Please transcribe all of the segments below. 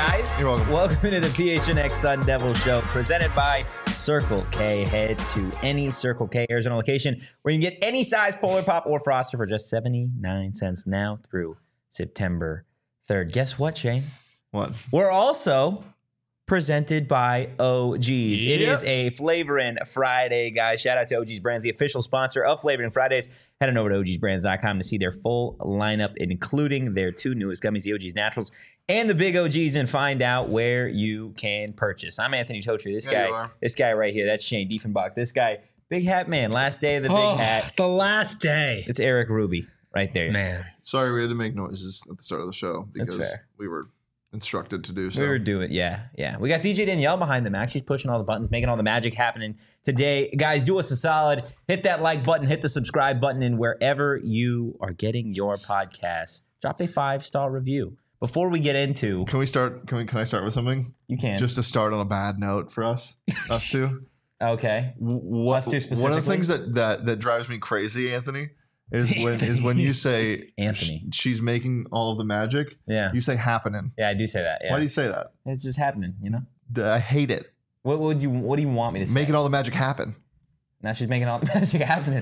guys. You're welcome. Welcome to the PHNX Sun Devil Show, presented by Circle K. Head to any Circle K Arizona location where you can get any size Polar Pop or Froster for just 79 cents now through September 3rd. Guess what, Shane? What? We're also presented by OG's. It is a Flavorin' Friday, guys. Shout out to OG's Brands, the official sponsor of Flavorin' Fridays. Head on over to ogsbrands.com to see their full lineup, including their two newest gummies, the OG's Naturals and the Big OGs, and find out where you can purchase. I'm Anthony Totri. This guy right here, that's Shane Diefenbach. This guy, Big Hat Man, last day of the Big Hat. The last day. It's Eric Ruby right there. Man. Sorry we had to make noises at the start of the show because That's fair. we were instructed to do so. We were doing, yeah. We got DJ Danielle behind the Mac. She's pushing all the buttons, making all the magic happening today. Guys, do us a solid. Hit that like button, hit the subscribe button, and wherever you are getting your podcast, drop a 5-star review. Before we get into, Can we start? Can I start with something? you can. Just to start on a bad note for us two. Okay. What? Us two One of the specifically? things that drives me crazy, Anthony, is when you say Anthony. she's making all of the magic. Yeah. You say happening. Yeah, I do say that. Yeah. Why do you say that? It's just happening, you know? I hate it. What do you want me to say? Making all the magic happen. Now she's making all the magic happening.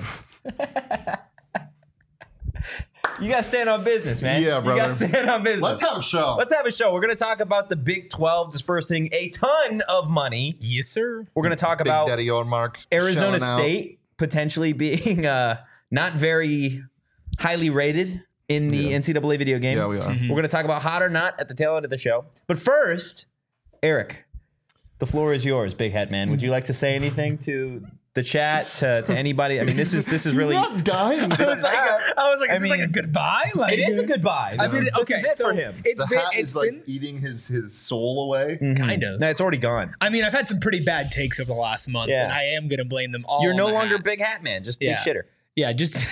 You got to stand on business, man. Yeah, brother. You got to stand on business. Let's have a show. Let's have a show. We're going to talk about the Big 12 dispersing a ton of money. Yes, sir. We're going to talk Big about Daddy Ormark Arizona shelling out. State potentially being not very highly rated in the NCAA video game. Yeah, we are. We're going to talk about hot or not at the tail end of the show. But first, Eric, the floor is yours, Big Hat Man. Would you like to say anything to the chat, to anybody? I mean, this is really. He's not dying. I was like, is this like mean, a goodbye? Like, It is a goodbye. I mean, This is it for him. It's The been, hat it's is like been eating his soul away. kind of. No, it's already gone. I mean, I've had some pretty bad takes over the last month, Yeah. and I am going to blame them all. You're on no the longer hat. Big Hat Man, just Yeah. Big Shitter. Yeah, just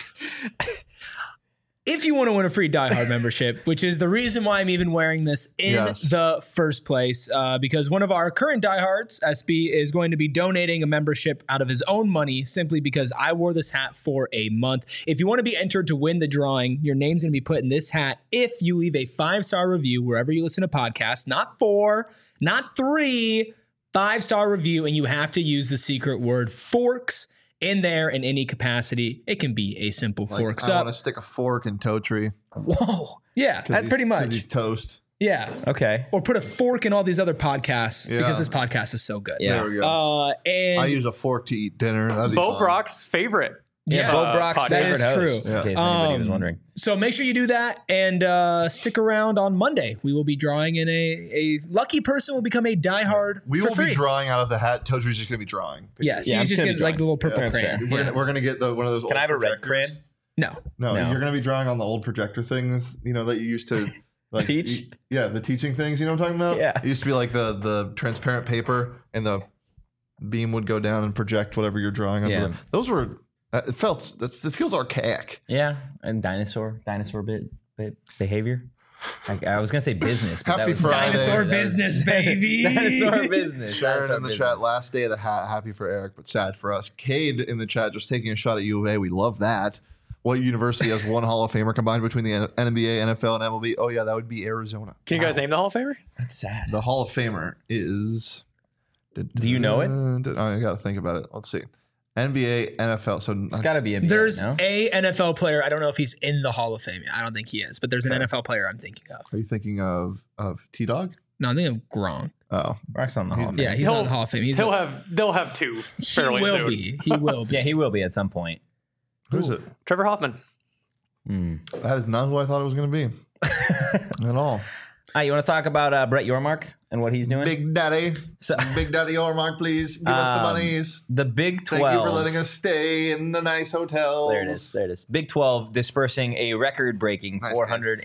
if you want to win a free Die Hard membership, which is the reason why I'm even wearing this in Yes. the first place, because one of our current diehards, SB, is going to be donating a membership out of his own money simply because I wore this hat for a month. If you want to be entered to win the drawing, your name's going to be put in this hat if you leave a 5-star review wherever you listen to podcasts, not 4, not 3, 5-star review, and you have to use the secret word forks in there in any capacity. It can be a simple Like, forks I up. want to stick a fork in Totri. Whoa. Yeah, that's pretty Because he's much. toast. Yeah. Okay. Or put a fork in all these other podcasts Yeah. because this podcast is so good. Yeah. There we go. And I use a fork to eat dinner. That'd be Bo fun. Brock's favorite. Yeah, Yes. Bo Brock's Podcast. That favorite is host, true. in case anybody was wondering. so make sure you do that and stick around on Monday. We will be drawing in a lucky person will become a diehard We for will free. be drawing out of the hat. Totri's just going to be drawing. Yes, Yeah, I'm he's just just gonna getting be like the little purple That's crayon. fair. Yeah. We're going to get one of those. Can I have a red crayon? No. No, No. you're going to be drawing on the old projector things. You know that you used to like Teach? the teaching things. You know what I'm talking about? Yeah. It used to be like the transparent paper, and the beam would go down and project whatever you're drawing. Onto Yeah. those were. It feels archaic. Yeah, and dinosaur behavior. I was gonna say business, but Happy that was Friday. Dinosaur business, baby. Dinosaur business. Sharon Dinosaur in the business. chat, last day of the hat. Happy for Eric, but sad for us. Cade in the chat, just taking a shot at U of A. We love that. What university has one Hall of Famer combined between the NBA, NFL, and MLB? Oh yeah, that would be Arizona. Can you guys name the Hall of Famer? That's sad. The Hall of Famer is. Do you know it? I got to think about it. Let's see. NBA, NFL. So It's got to be NBA. There's no? a NFL player. I don't know if he's in the Hall of Fame. I don't think he is, but there's an NFL player I'm thinking of. are you thinking of T Dog? No, I'm thinking of Gronk. Oh, Rock's on the Hall of Fame. Yeah, he's not in the Hall of Fame. They'll have two he fairly will soon. be. He will be. Yeah, he will be at some point. who's it? Trevor Hoffman. That is not who I thought it was going to be at all. All right, you want to talk about Brett Yormark and what he's doing? Big Daddy, So- Big Daddy Ormark, please give us the monies. the Big 12. Thank you for letting us stay in the nice hotels. There it is. There it is. Big 12 dispersing a record-breaking Nice,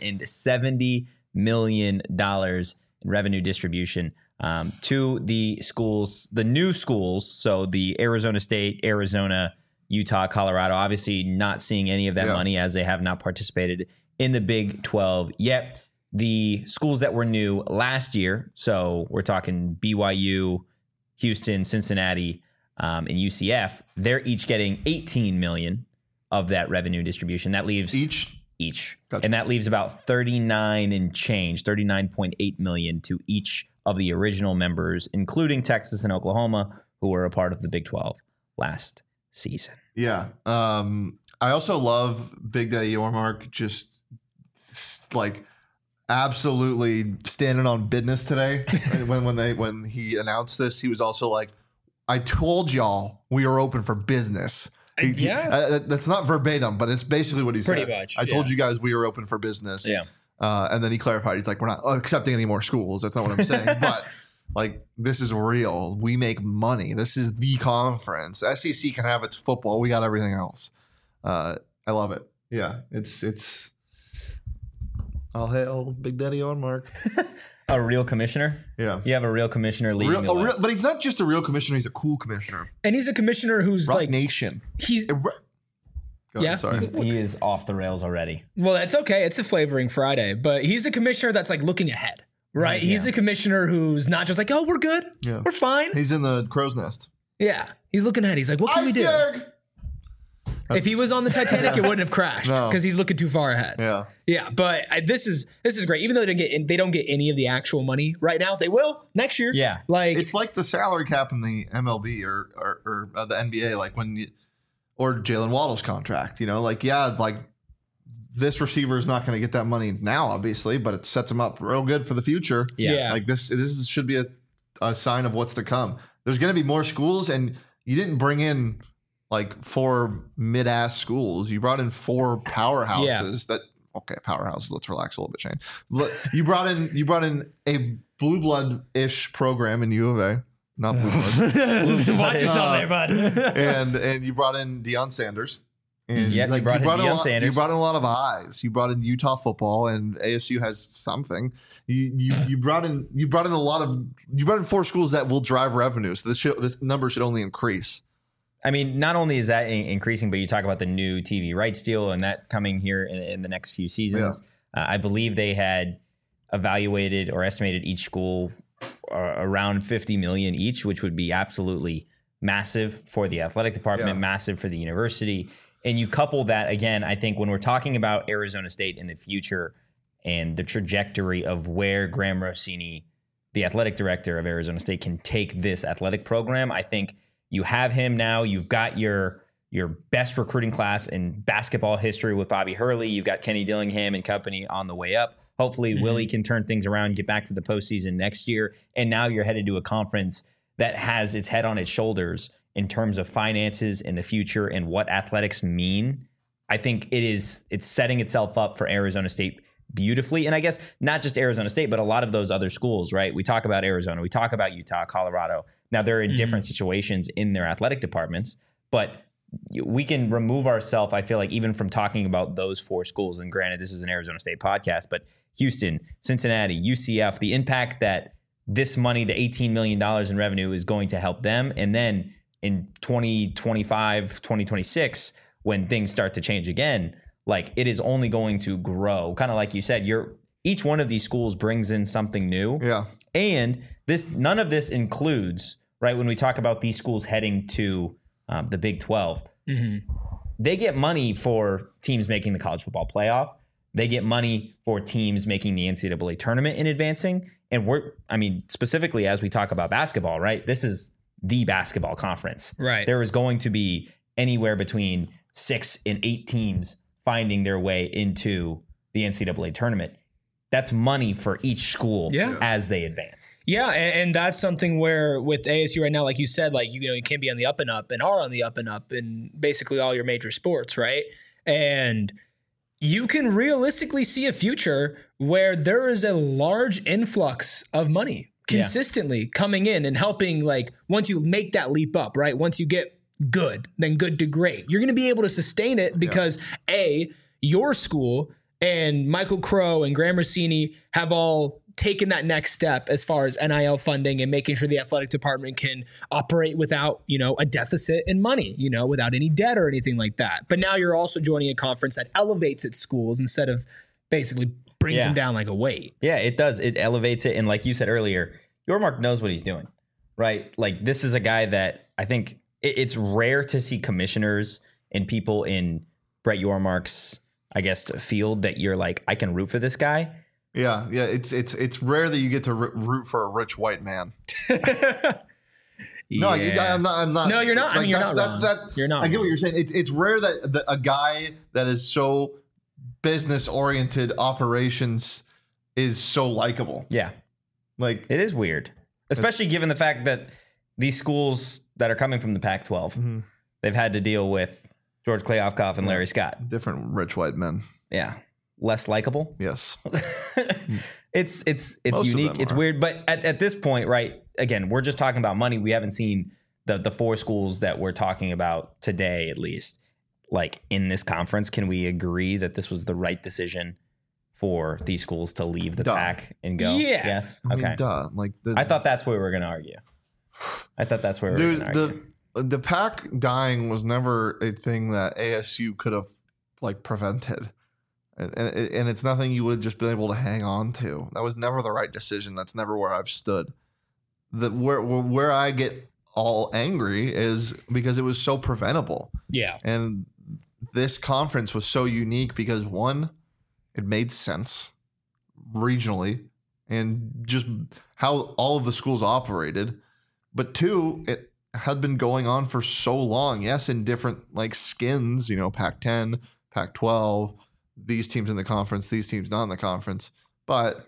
$470 million in revenue distribution to the schools, the new schools. So the Arizona State, Arizona, Utah, Colorado, obviously not seeing any of that Yeah. money as they have not participated in the Big 12 yet. The schools that were new last year, so we're talking BYU, Houston, Cincinnati, and UCF, they're each getting $18 million of that revenue distribution. That leaves Each each. Gotcha. And that leaves about 39 and change, 39.8 million to each of the original members, including Texas and Oklahoma, who were a part of the Big 12 last season. Yeah. I also love Big Daddy Yormark just like absolutely standing on business today. when he announced this, he was also like, I told y'all we are open for business. That's not verbatim, but it's basically what he said. Pretty much. I told you guys we were open for business. Yeah. And then he clarified. He's like, we're not accepting any more schools. That's not what I'm saying. But like, this is real. We make money. This is the conference. SEC can have its football. We got everything else. I love it. Yeah. It's all hail Big Daddy Yormark. A real commissioner? Yeah. You have a real commissioner leading the way. But he's not just a real commissioner. He's a cool commissioner. And he's a commissioner who's Rock like Nation. he's Go ahead, Yeah. sorry. He is off the rails already. well, that's okay. It's a flavoring Friday, but he's a commissioner that's like looking ahead, right? Yeah. He's a commissioner who's not just like, oh, we're good, Yeah. we're fine. He's in the crow's nest. Yeah, he's looking ahead. He's like, what can we do? Iceberg! If he was on the Titanic, it wouldn't have crashed No. because he's looking too far ahead. Yeah. Yeah, but this is great. Even though they don't get any of the actual money right now, they will next year. Yeah. like It's like the salary cap in the MLB or the NBA, like or Jalen Waddle's contract, like this receiver is not going to get that money now, obviously, but it sets him up real good for the future. Yeah. Like this should be a sign of what's to come. There's going to be more schools, and you didn't bring in like 4 mid-ass schools. You brought in 4 powerhouses powerhouses. Let's relax a little bit, Shane. You brought in a blue blood-ish program in U of A, not blue blood. watch yourself there, bud. and you brought in Deion Sanders. And Yep, you brought in Deion Sanders. You brought in a lot of eyes. You brought in Utah football, and ASU has something. You brought in 4 schools that will drive revenue. So this number should only increase. I mean, not only is that increasing, but you talk about the new TV rights deal and that coming here in the next few seasons. I believe they had evaluated or estimated each school around $50 million each, which would be absolutely massive for the athletic department, massive for the university. And you couple that, again, I think when we're talking about Arizona State in the future and the trajectory of where Graham Rossini, the athletic director of Arizona State, can take this athletic program, I think you have him now. You've got your best recruiting class in basketball history with Bobby Hurley. You've got Kenny Dillingham and company on the way up. Hopefully, Willie can turn things around, get back to the postseason next year. And now you're headed to a conference that has its head on its shoulders in terms of finances in the future and what athletics mean. I think it's setting itself up for Arizona State beautifully. And I guess not just Arizona State, but a lot of those other schools, right? We talk about Arizona, we talk about Utah, Colorado. Now they're in different situations in their athletic departments, but we can remove ourselves, I feel like, even from talking about those 4 schools. And granted, this is an Arizona State podcast, but Houston, Cincinnati, UCF, the impact that this money, the $18 million in revenue, is going to help them. And then in 2025, 2026, when things start to change again, like it is only going to grow. Kind of like you said, each one of these schools brings in something new. Yeah. And none of this includes, right, when we talk about these schools heading to the Big 12, they get money for teams making the college football playoff. They get money for teams making the NCAA tournament and advancing. And specifically as we talk about basketball, right, this is the basketball conference. Right. There is going to be anywhere between 6 and 8 teams finding their way into the NCAA tournament. That's money for each school as they advance. Yeah, and that's something where with ASU right now, like you said, like you can be on the up and up and are on the up and up in basically all your major sports, right? And you can realistically see a future where there is a large influx of money consistently coming in and helping, like once you make that leap up, right? Once you get good, then good to great. You're going to be able to sustain it because your school and Michael Crow and Graham Rossini have all taken that next step as far as NIL funding and making sure the athletic department can operate without, a deficit in money, without any debt or anything like that. But now you're also joining a conference that elevates its schools instead of basically brings them down like a weight. Yeah, it does. It elevates it. And like you said earlier, Yormark knows what he's doing, right? Like this is a guy that I think it's rare to see commissioners and people in Brett Yormark's I guess, field that you're like, I can root for this guy. Yeah. It's rare that you get to root for a rich white man. No, I'm not. No, you're not. Like, I mean, you're not wrong. You're not. I get what you're saying. It's rare that a guy that is so business oriented operations is so likable. Yeah, like it is weird, especially given the fact that these schools that are coming from the Pac-12, they've had to deal with George Kliavkoff and Larry Scott, different rich white men. Yeah, less likable. Yes, it's Most unique. It's weird, but at this point, right? Again, we're just talking about money. We haven't seen the 4 schools that we're talking about today, at least, like in this conference. Can we agree that this was the right decision for these schools to leave the pack and go? Yeah. Yes. I Okay. mean, duh. Like I thought that's where we were going to argue. The pack dying was never a thing that ASU could have like prevented. And it's nothing you would have just been able to hang on to. That was never the right decision. That's never where I've stood. Where I get all angry is because it was so preventable. Yeah. And this conference was so unique because, one, it made sense regionally and just how all of the schools operated. But 2, it had been going on for so long. Yes, in different like skins, Pac-10, Pac-12, these teams in the conference, these teams not in the conference. But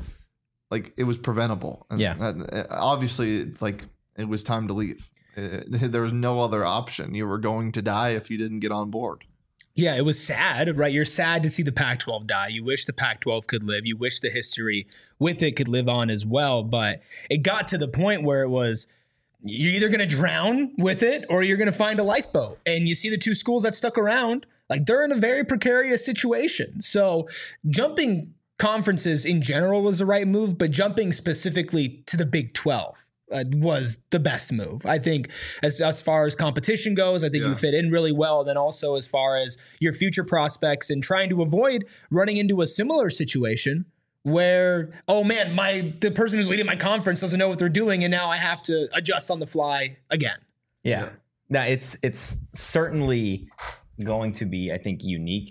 like it was preventable. And obviously, like it was time to leave. There was no other option. You were going to die if you didn't get on board. Yeah, it was sad, right? You're sad to see the Pac-12 die. You wish the Pac-12 could live. You wish the history with it could live on as well. But it got to the point where it was, you're either going to drown with it or you're going to find a lifeboat. And you see the 2 schools that stuck around, like they're in a very precarious situation. So jumping conferences in general was the right move, but jumping specifically to the Big 12 was the best move. I think as far as competition goes, I think you fit in really well. And then also as far as your future prospects and trying to avoid running into a similar situation where, oh man, the person who's leading my conference doesn't know what they're doing, and now I have to adjust on the fly again. Yeah. Now it's certainly going to be, I think, unique.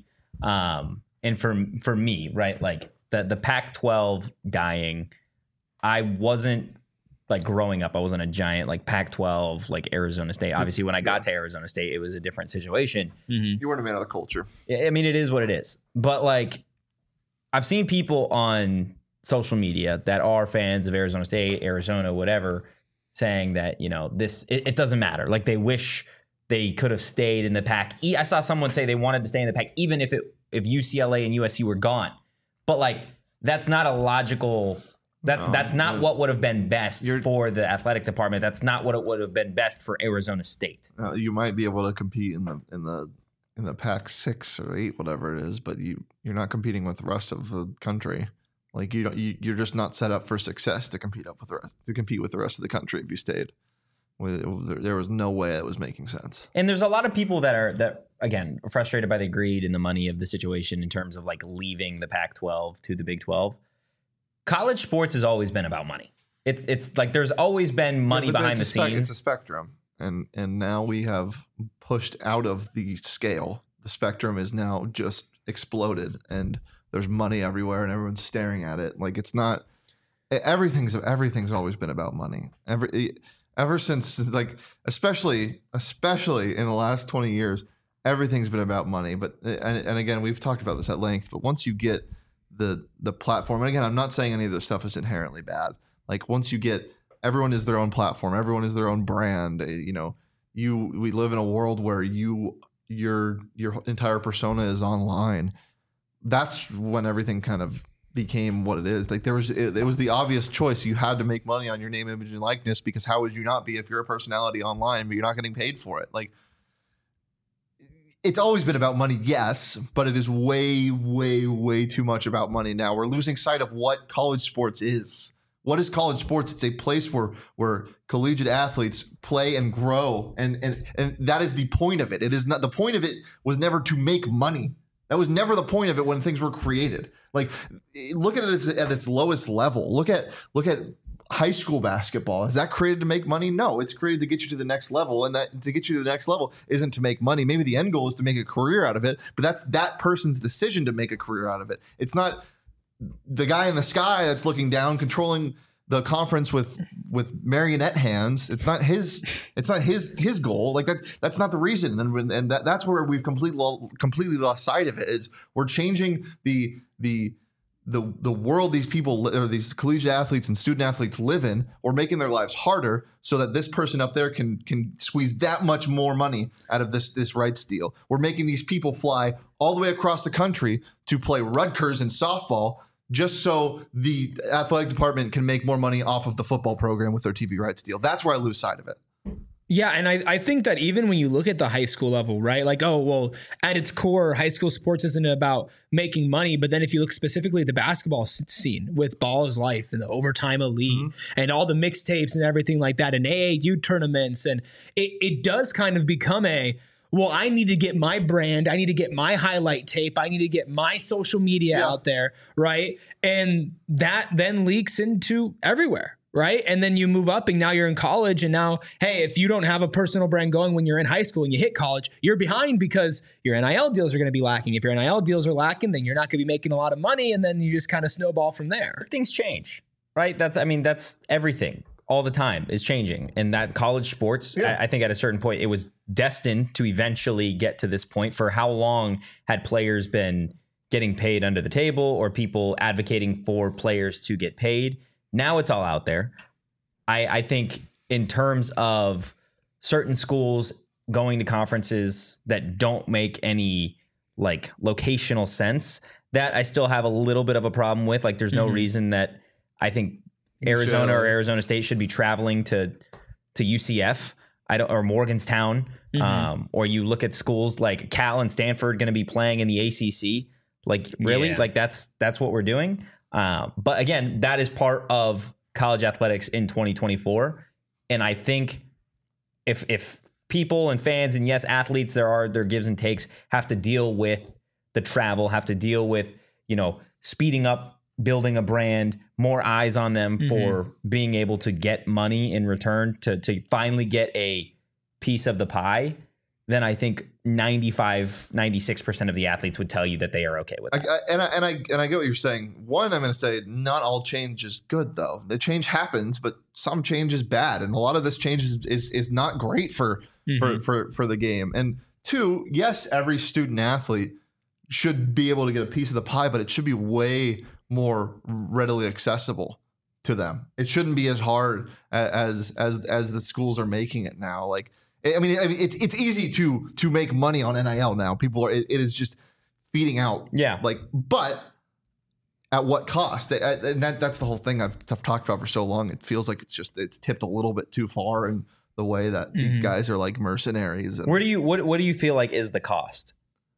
And for me, right, like the Pac-12 dying, I wasn't like growing up, I wasn't a giant like Pac-12, like Arizona State. Obviously, when I got to Arizona State, it was a different situation. You weren't a man of the culture. I mean, it is what it is. But like, I've seen people on social media that are fans of Arizona State, Arizona, whatever, saying that, it doesn't matter. Like they wish they could have stayed in the Pac. I saw someone say they wanted to stay in the Pac, even if UCLA and USC were gone. But like, that's not a logical. That's not what would have been best for the athletic department. That's not what it would have been best for Arizona State. You might be able to compete in the Pac-6 or 8, whatever it is, but you're not competing with the rest of the country. Like you're just not set up for success to compete with the rest of the country if you stayed. There was no way it was making sense. And there's a lot of people that again are frustrated by the greed and the money of the situation in terms of like leaving the Pac-12 to the Big 12. College sports has always been about money. It's like there's always been money behind the scenes. It's a spectrum, and now we have pushed out of the scale. The spectrum is now just exploded, and there's money everywhere, and everyone's staring at it. Like it's not. Everything's always been about money. Ever since, like especially in the last 20 years, everything's been about money. But and again, we've talked about this at length. But once you get the platform, and again, I'm not saying any of this stuff is inherently bad. Like once you get, everyone is their own platform, everyone is their own brand. We live in a world where your entire persona is online. That's when everything kind of became what it is. Like it was the obvious choice. You had to make money on your name, image, and likeness, because how would you not be if you're a personality online, but you're not getting paid for it? Like it's always been about money, yes, but it is way, way, way too much about money now. We're losing sight of what college sports is. What is college sports? It's a place where collegiate athletes play and grow, and that is the point of it. It is not, the point of it was never to make money. That was never the point of it when things were created. Like look at it at its lowest level. Look at high school basketball. Is that created to make money? No, it's created to get you to the next level. And that to get you to the next level isn't to make money. Maybe the end goal is to make a career out of it, but that's that person's decision to make a career out of it. It's not the guy in the sky that's looking down, controlling the conference with marionette hands. It's not his goal. Like that's not the reason. And that's where we've completely lost sight of it. Is we're changing the world these people or these collegiate athletes and student athletes live in. We're making their lives harder so that this person up there can squeeze that much more money out of this rights deal. We're making these people fly all the way across the country to play Rutgers in softball just so the athletic department can make more money off of the football program with their TV rights deal. That's where I lose sight of it. Yeah, and I think that even when you look at the high school level, right? Like, oh, well, at its core, high school sports isn't about making money. But then if you look specifically at the basketball scene with Ball is Life and the Overtime Elite and all the mixtapes and everything like that and AAU tournaments, and it does kind of become well, I need to get my brand. I need to get my highlight tape. I need to get my social media out there, right? And that then leaks into everywhere, right? And then you move up and now you're in college. And now, hey, if you don't have a personal brand going when you're in high school and you hit college, you're behind because your NIL deals are going to be lacking. If your NIL deals are lacking, then you're not going to be making a lot of money. And then you just kind of snowball from there. Things change, right? That's everything. All the time is changing. And that college sports, I think at a certain point, it was destined to eventually get to this point. For how long had players been getting paid under the table or people advocating for players to get paid? Now it's all out there. I think in terms of certain schools going to conferences that don't make any like locational sense, that I still have a little bit of a problem with. Like there's no reason that I think Arizona or Arizona State should be traveling to UCF or Morgantown. Or you look at schools like Cal and Stanford going to be playing in the ACC. Like really, like that's what we're doing. But again, that is part of college athletics in 2024. And I think if people and fans and yes, athletes, there are their gives and takes, have to deal with the travel, have to deal with, speeding up, building a brand, more eyes on them for being able to get money in return to finally get a piece of the pie, then I think 96% of the athletes would tell you that they are okay with that. I get what you're saying. One, I'm going to say not all change is good, though. The change happens, but some change is bad. And a lot of this change is not great for the game. And two, yes, every student athlete should be able to get a piece of the pie, but it should be way more readily accessible to them. It shouldn't be as hard as the schools are making it now. Like, I mean, it's easy to make money on NIL now. People are, it is just feeding out. Yeah. Like, but at what cost? And that's the whole thing I've talked about for so long. It feels like it's tipped a little bit too far in the way that these guys are like mercenaries. And what do you feel like is the cost?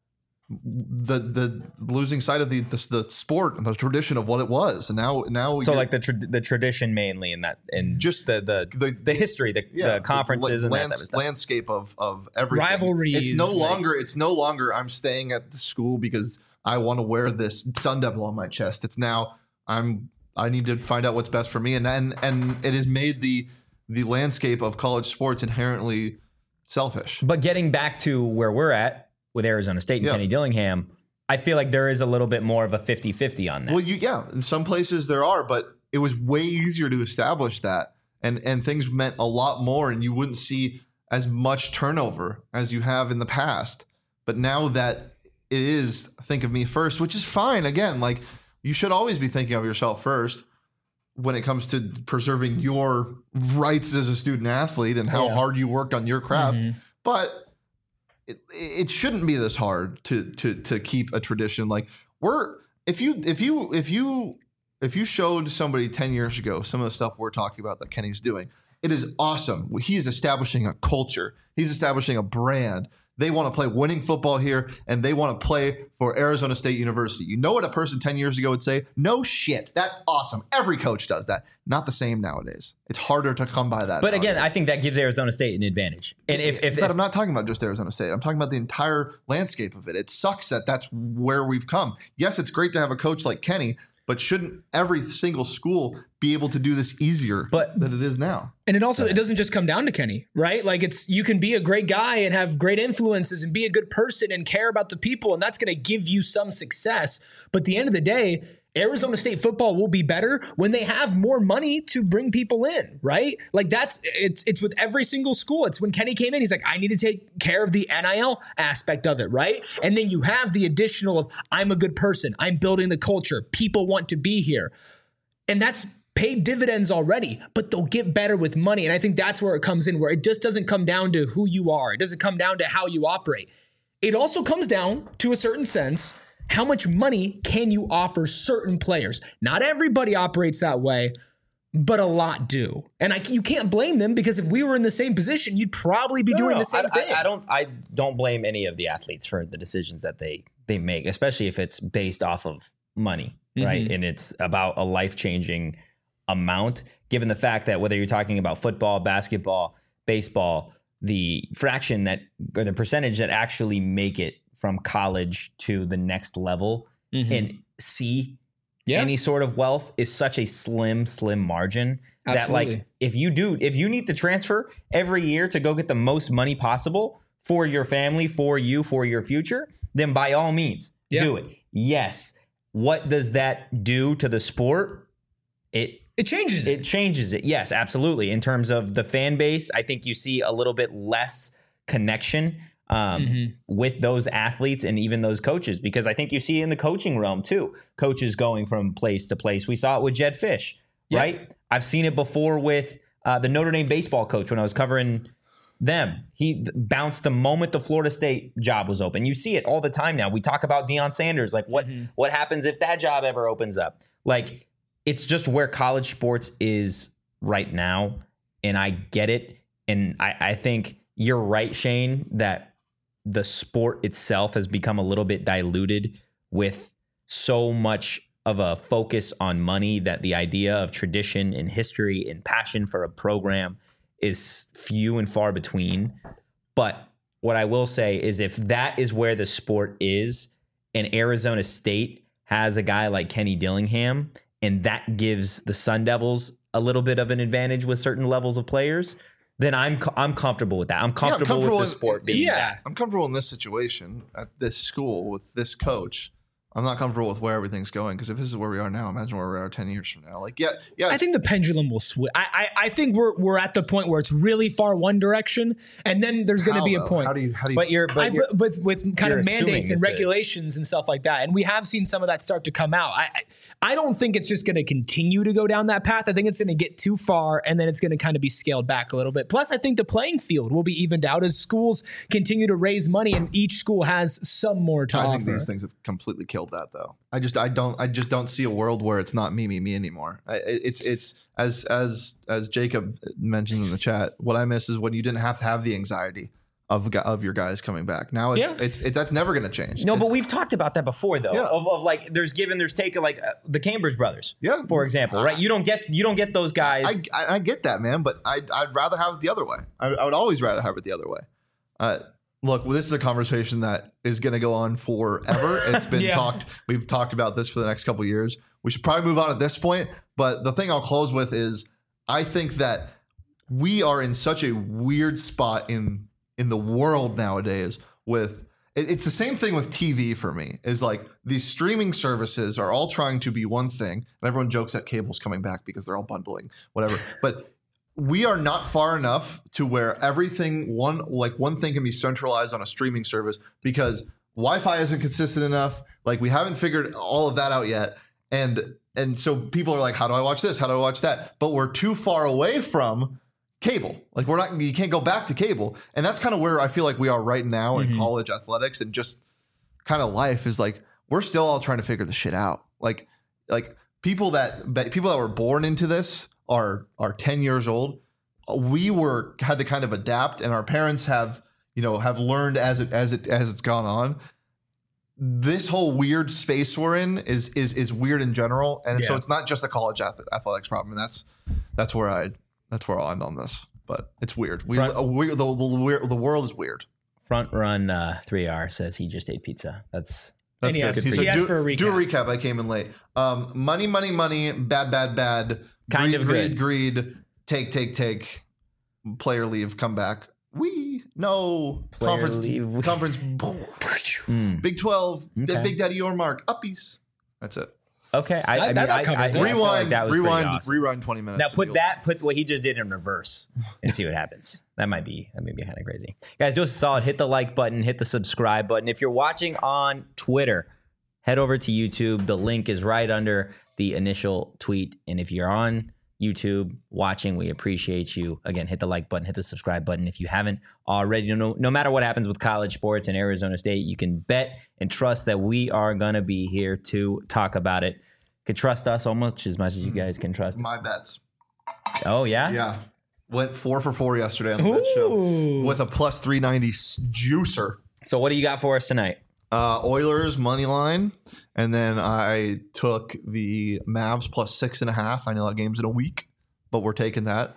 The losing sight of the sport and the tradition of what it was, and now so like the tradition mainly in that, and just the history, the conferences and that landscape of everything. Rivalries. It's no longer I'm staying at the school because I want to wear this Sun Devil on my chest. It's now I need to find out what's best for me, and it has made the landscape of college sports inherently selfish. But getting back to where we're at with Arizona State and Kenny Dillingham, I feel like there is a little bit more of a 50-50 on that. Well, in some places there are, but it was way easier to establish that, and things meant a lot more, and you wouldn't see as much turnover as you have in the past. But now that it is think of me first, which is fine. Again, like you should always be thinking of yourself first when it comes to preserving your rights as a student athlete and how hard you worked on your craft. But it shouldn't be this hard to keep a tradition. Like if you showed somebody 10 years ago some of the stuff we're talking about that Kenny's doing, it is awesome. He's establishing a culture. He's establishing a brand. They want to play winning football here, and they want to play for Arizona State University. You know what a person 10 years ago would say? No shit. That's awesome. Every coach does that. Not the same nowadays. It's harder to come by that. But again, I think that gives Arizona State an advantage. And if I'm not talking about just Arizona State. I'm talking about the entire landscape of it. It sucks that that's where we've come. Yes, it's great to have a coach like Kenny, But shouldn't every single school be able to do this easier than it is now? And it also, it doesn't just come down to Kenny, right? Like you can be a great guy and have great influences and be a good person and care about the people. And that's going to give you some success. But at the end of the day, Arizona State football will be better when they have more money to bring people in, right? Like it's with every single school. It's when Kenny came in, he's like, I need to take care of the NIL aspect of it, right? And then you have the additional of, I'm a good person, I'm building the culture, people want to be here. And that's paid dividends already, but they'll get better with money. And I think that's where it comes in, where it just doesn't come down to who you are. It doesn't come down to how you operate. It also comes down to a certain sense, how much money can you offer certain players? Not everybody operates that way, but a lot do. And you can't blame them, because if we were in the same position, you'd probably be doing the same thing. I don't blame any of the athletes for the decisions that they make, especially if it's based off of money, right? And it's about a life-changing amount, given the fact that whether you're talking about football, basketball, baseball, the fraction that, or the percentage that actually make it from college to the next level and see any sort of wealth is such a slim margin. Absolutely. That, like, if you need to transfer every year to go get the most money possible for your family, for you, for your future, then by all means do it. Yes. What does that do to the sport? It changes it. It changes it. Yes, absolutely. In terms of the fan base, I think you see a little bit less connection with those athletes and even those coaches, because I think you see in the coaching realm too, coaches going from place to place. We saw it with Jedd Fisch, right? I've seen it before with the Notre Dame baseball coach when I was covering them. He bounced the moment the Florida State job was open. You see it all the time now. We talk about Deion Sanders, like what happens if that job ever opens up? Like, it's just where college sports is right now, and I get it. And I think you're right, Shane, that the sport itself has become a little bit diluted with so much of a focus on money that the idea of tradition and history and passion for a program is few and far between. But what I will say is, if that is where the sport is, and Arizona State has a guy like Kenny Dillingham, and that gives the Sun Devils a little bit of an advantage with certain levels of players, then I'm comfortable with that. I'm comfortable with the sport being that. I'm comfortable in this situation at this school with this coach. I'm not comfortable with where everything's going, because if this is where we are now, imagine where we are 10 years from now. Like, I think the pendulum will swing. I think we're at the point where it's really far one direction, and then there's going to be a point. How do you? With kind of mandates and regulations and stuff like that, and we have seen some of that start to come out. I don't think it's just going to continue to go down that path. I think it's going to get too far, and then it's going to kind of be scaled back a little bit. Plus, I think the playing field will be evened out as schools continue to raise money, and each school has some more to offer. I think these things have completely killed that, though. I just don't see a world where it's not me anymore. It's as Jacob mentioned in the chat. What I miss is when you didn't have to have the anxiety of your guys coming back. Now it's that's never going to change. No, but we've talked about that before, though. Of like, there's taken, like the Cambridge brothers, for example, right? You don't get those guys. I get that, man, but I'd rather have it the other way. I would always rather have it the other way. Look, this is a conversation that is going to go on forever. It's been talked. We've talked about this for the next couple of years. We should probably move on at this point. But the thing I'll close with is, I think that we are in such a weird spot in the world nowadays. With it's the same thing with TV for me. Is like, these streaming services are all trying to be one thing, and everyone jokes that cable's coming back because they're all bundling, whatever. But we are not far enough to where everything one thing can be centralized on a streaming service, because Wi-Fi isn't consistent enough. Like, we haven't figured all of that out yet. And so people are like, how do I watch this? How do I watch that? But we're too far away from cable. Like, you can't go back to cable. And that's kind of where I feel like we are right now in college athletics, and just kind of life is like, we're still all trying to figure this shit out. Like people that were born into this are 10 years old. We had to kind of adapt, and our parents have learned as it's gone on. This whole weird space we're in is weird in general, and so it's not just a college athletics problem. And that's where I'll end on this. But it's weird. The world is weird. Front Run 3R says he just ate pizza. That's That's And good. he He asked said, for a recap. do a recap. I came in late. Money, money, money. Bad, bad, bad. Kind greed, of greed, good. greed. Take. Player leave. Come back. No. Player Conference. leave. Conference. Big 12. Okay. Big Daddy Yormark. Uppies. That's it. Okay, I That covers it. feel like Rewind. that was pretty awesome. Rewind 20 minutes. Now and you'll- put what he just did in reverse and see what happens. That might be kind of crazy. Guys, do us a solid. Hit the like button. Hit the subscribe button. If you're watching on Twitter, head over to YouTube. The link is right under the initial tweet. And if you're on YouTube watching, we appreciate you. Again, hit the like button. Hit the subscribe button. If you haven't already, no matter what happens with college sports and Arizona State, you can bet and trust that we are going to be here to talk about it. Can trust us almost as much as you guys can trust. My bets. Oh, yeah? Yeah. Went 4 for 4 yesterday on the bet show with a plus 390 juicer. So what do you got for us tonight? Oilers money line, and then I took the Mavs plus 6.5. I know that game's in a week, but we're taking that.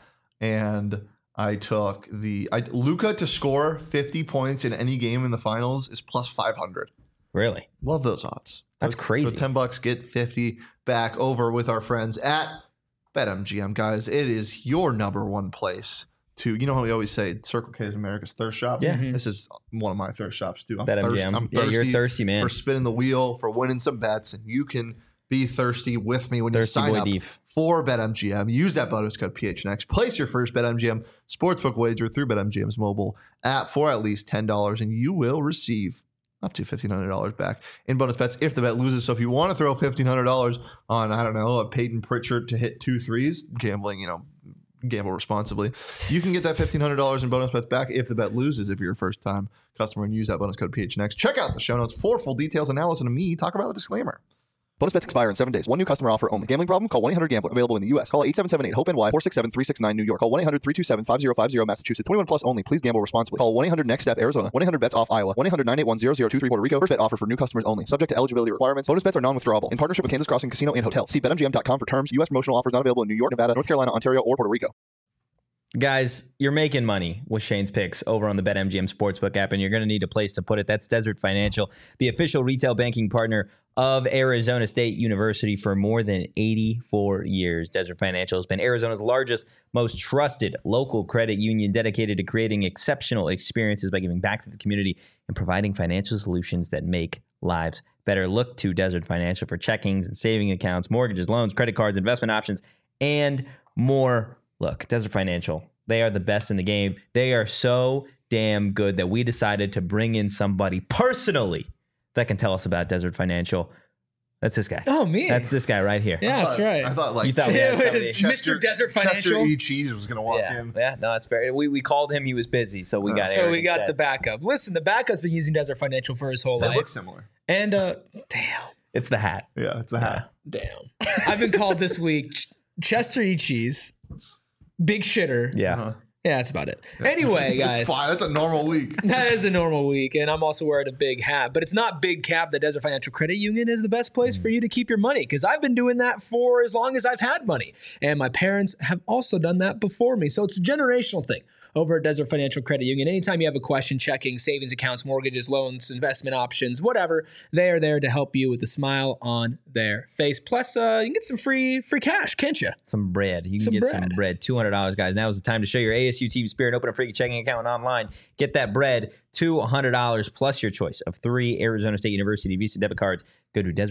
And I took Luka to score 50 points in any game in the finals is plus 500. Really? Love those odds. That's crazy. For $10, get 50 back over with our friends at BetMGM, guys. It is your number one place to, you know how we always say Circle K is America's thirst shop? Yeah. This is one of my thirst shops too. I'm BetMGM. Yeah, thirsty you're thirsty, man. for spinning the wheel, for winning some bets, and you can be thirsty with me when Thirsty you sign boy up Deef. for BetMGM. Use that bonus code PHNX. Place your first BetMGM sportsbook wager through BetMGM's mobile app for at least $10, and you will receive up to $1,500 back in bonus bets if the bet loses. So if you want to throw $1,500 on, I don't know, a Peyton Pritchard to hit 2 threes, gambling, gamble responsibly, you can get that $1,500 in bonus bets back if the bet loses if you're a first-time customer, and use that bonus code PHNX. Check out the show notes for full details, and now listen to me talk about the disclaimer. Bonus bets expire in 7 days. One new customer offer only. Gambling problem? Call 1-800-GAMBLER. Available in the U.S. Call 877-8-HOPE-NY 467-369 New York. Call 1-800-327-5050 Massachusetts. 21 plus only. Please gamble responsibly. Call 1-800-NEXT-STEP Arizona. 1-800-BETS-OFF Iowa. 1-800-981-0023 Puerto Rico. First bet offer for new customers only. Subject to eligibility requirements. Bonus bets are non-withdrawable. In partnership with Kansas Crossing Casino and Hotel. See BetMGM.com for terms. U.S. promotional offers not available in New York, Nevada, North Carolina, Ontario, or Puerto Rico. Guys, you're making money with Shane's picks over on the BetMGM Sportsbook app, and you're going to need a place to put it. That's Desert Financial, the official retail banking partner of Arizona State University for more than 84 years. Desert Financial has been Arizona's largest, most trusted local credit union, dedicated to creating exceptional experiences by giving back to the community and providing financial solutions that make lives better. Look to Desert Financial for checkings and saving accounts, mortgages, loans, credit cards, investment options, and more. Look, Desert Financial, they are the best in the game. They are so damn good that we decided to bring in somebody personally that can tell us about Desert Financial. That's this guy. Oh, me. That's this guy right here. Yeah, that's right. I thought You thought we had somebody. Mr. Desert Financial. Chester E. Cheese was going to walk in. Yeah, no, that's fair. We called him. He was busy, so we got So Eric we got instead. the backup. Listen, the backup's been using Desert Financial for his whole They life. look similar. And damn. It's the hat. Yeah, it's the hat. Damn. I've been called this week Chester E. Cheese, Big Shitter. Yeah. Uh-huh. Yeah, that's about it. Anyway, guys. It's fine. That's a normal week. That is a normal week, and I'm also wearing a big hat. But it's not Big Cap. The Desert Financial Credit Union is the best place for you to keep your money, because I've been doing that for as long as I've had money. And my parents have also done that before me. So it's a generational thing over at Desert Financial Credit Union. Anytime you have a question, checking, savings accounts, mortgages, loans, investment options, whatever, they are there to help you with a smile on their face. Plus, you can get some free cash, can't you? Some bread. You can Some get bread. some bread. $200, guys. Now is the time to show your ASU team spirit. Open a free checking account online. Get that bread. $200 plus your choice of 3 Arizona State University Visa debit cards. Go to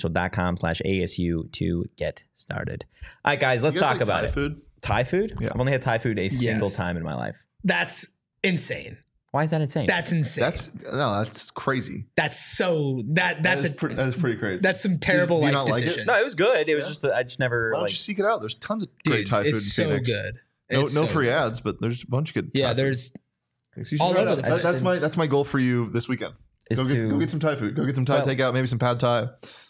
desertfinancial.com/ASU to get started. All right, guys, let's You guys talk like about Thai it. food? Thai food? Yeah. I've only had Thai food a single time in my life. That's insane. Why is that insane? That's insane. That's crazy. That's so that's That a is pretty crazy. that's some terrible Do you life not like it? decisions. no, it was good. It was just I just never Why don't like. you seek it out? There's tons of great Dude, Thai food in it's so Phoenix. good. No, It's no so free good. ads, but there's a bunch of good. Yeah, Thai food. there's You should all try over it the out. place. That's my goal for you this weekend. Is Go to- get some Thai food. Go get some Thai Well- takeout, maybe some pad Thai.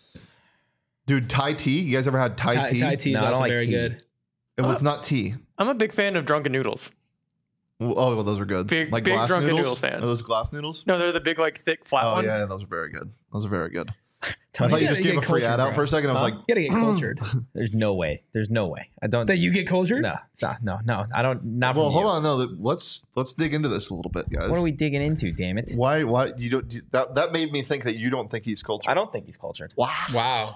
Dude, Thai tea. You guys ever had Thai tea? Thai tea is No, I don't also like very tea. good. It's not tea. I'm a big fan of drunken noodles. Oh, well, those are good. Big like drunken glass noodle noodles. fan. Are those glass noodles? No, they're the big, like, thick, flat Oh ones. yeah, those are very good. Those are very good. I thought you just gave a free ad out for a second. I was like, You gotta get cultured. There's no way. There's no way. I don't. That you get cultured? No. I don't. Not well, from hold you. on. No, let's dig into this a little bit, guys. What are we digging into? Damn it! Why you don't? That made me think that you don't think he's cultured. I don't think he's cultured. Wow.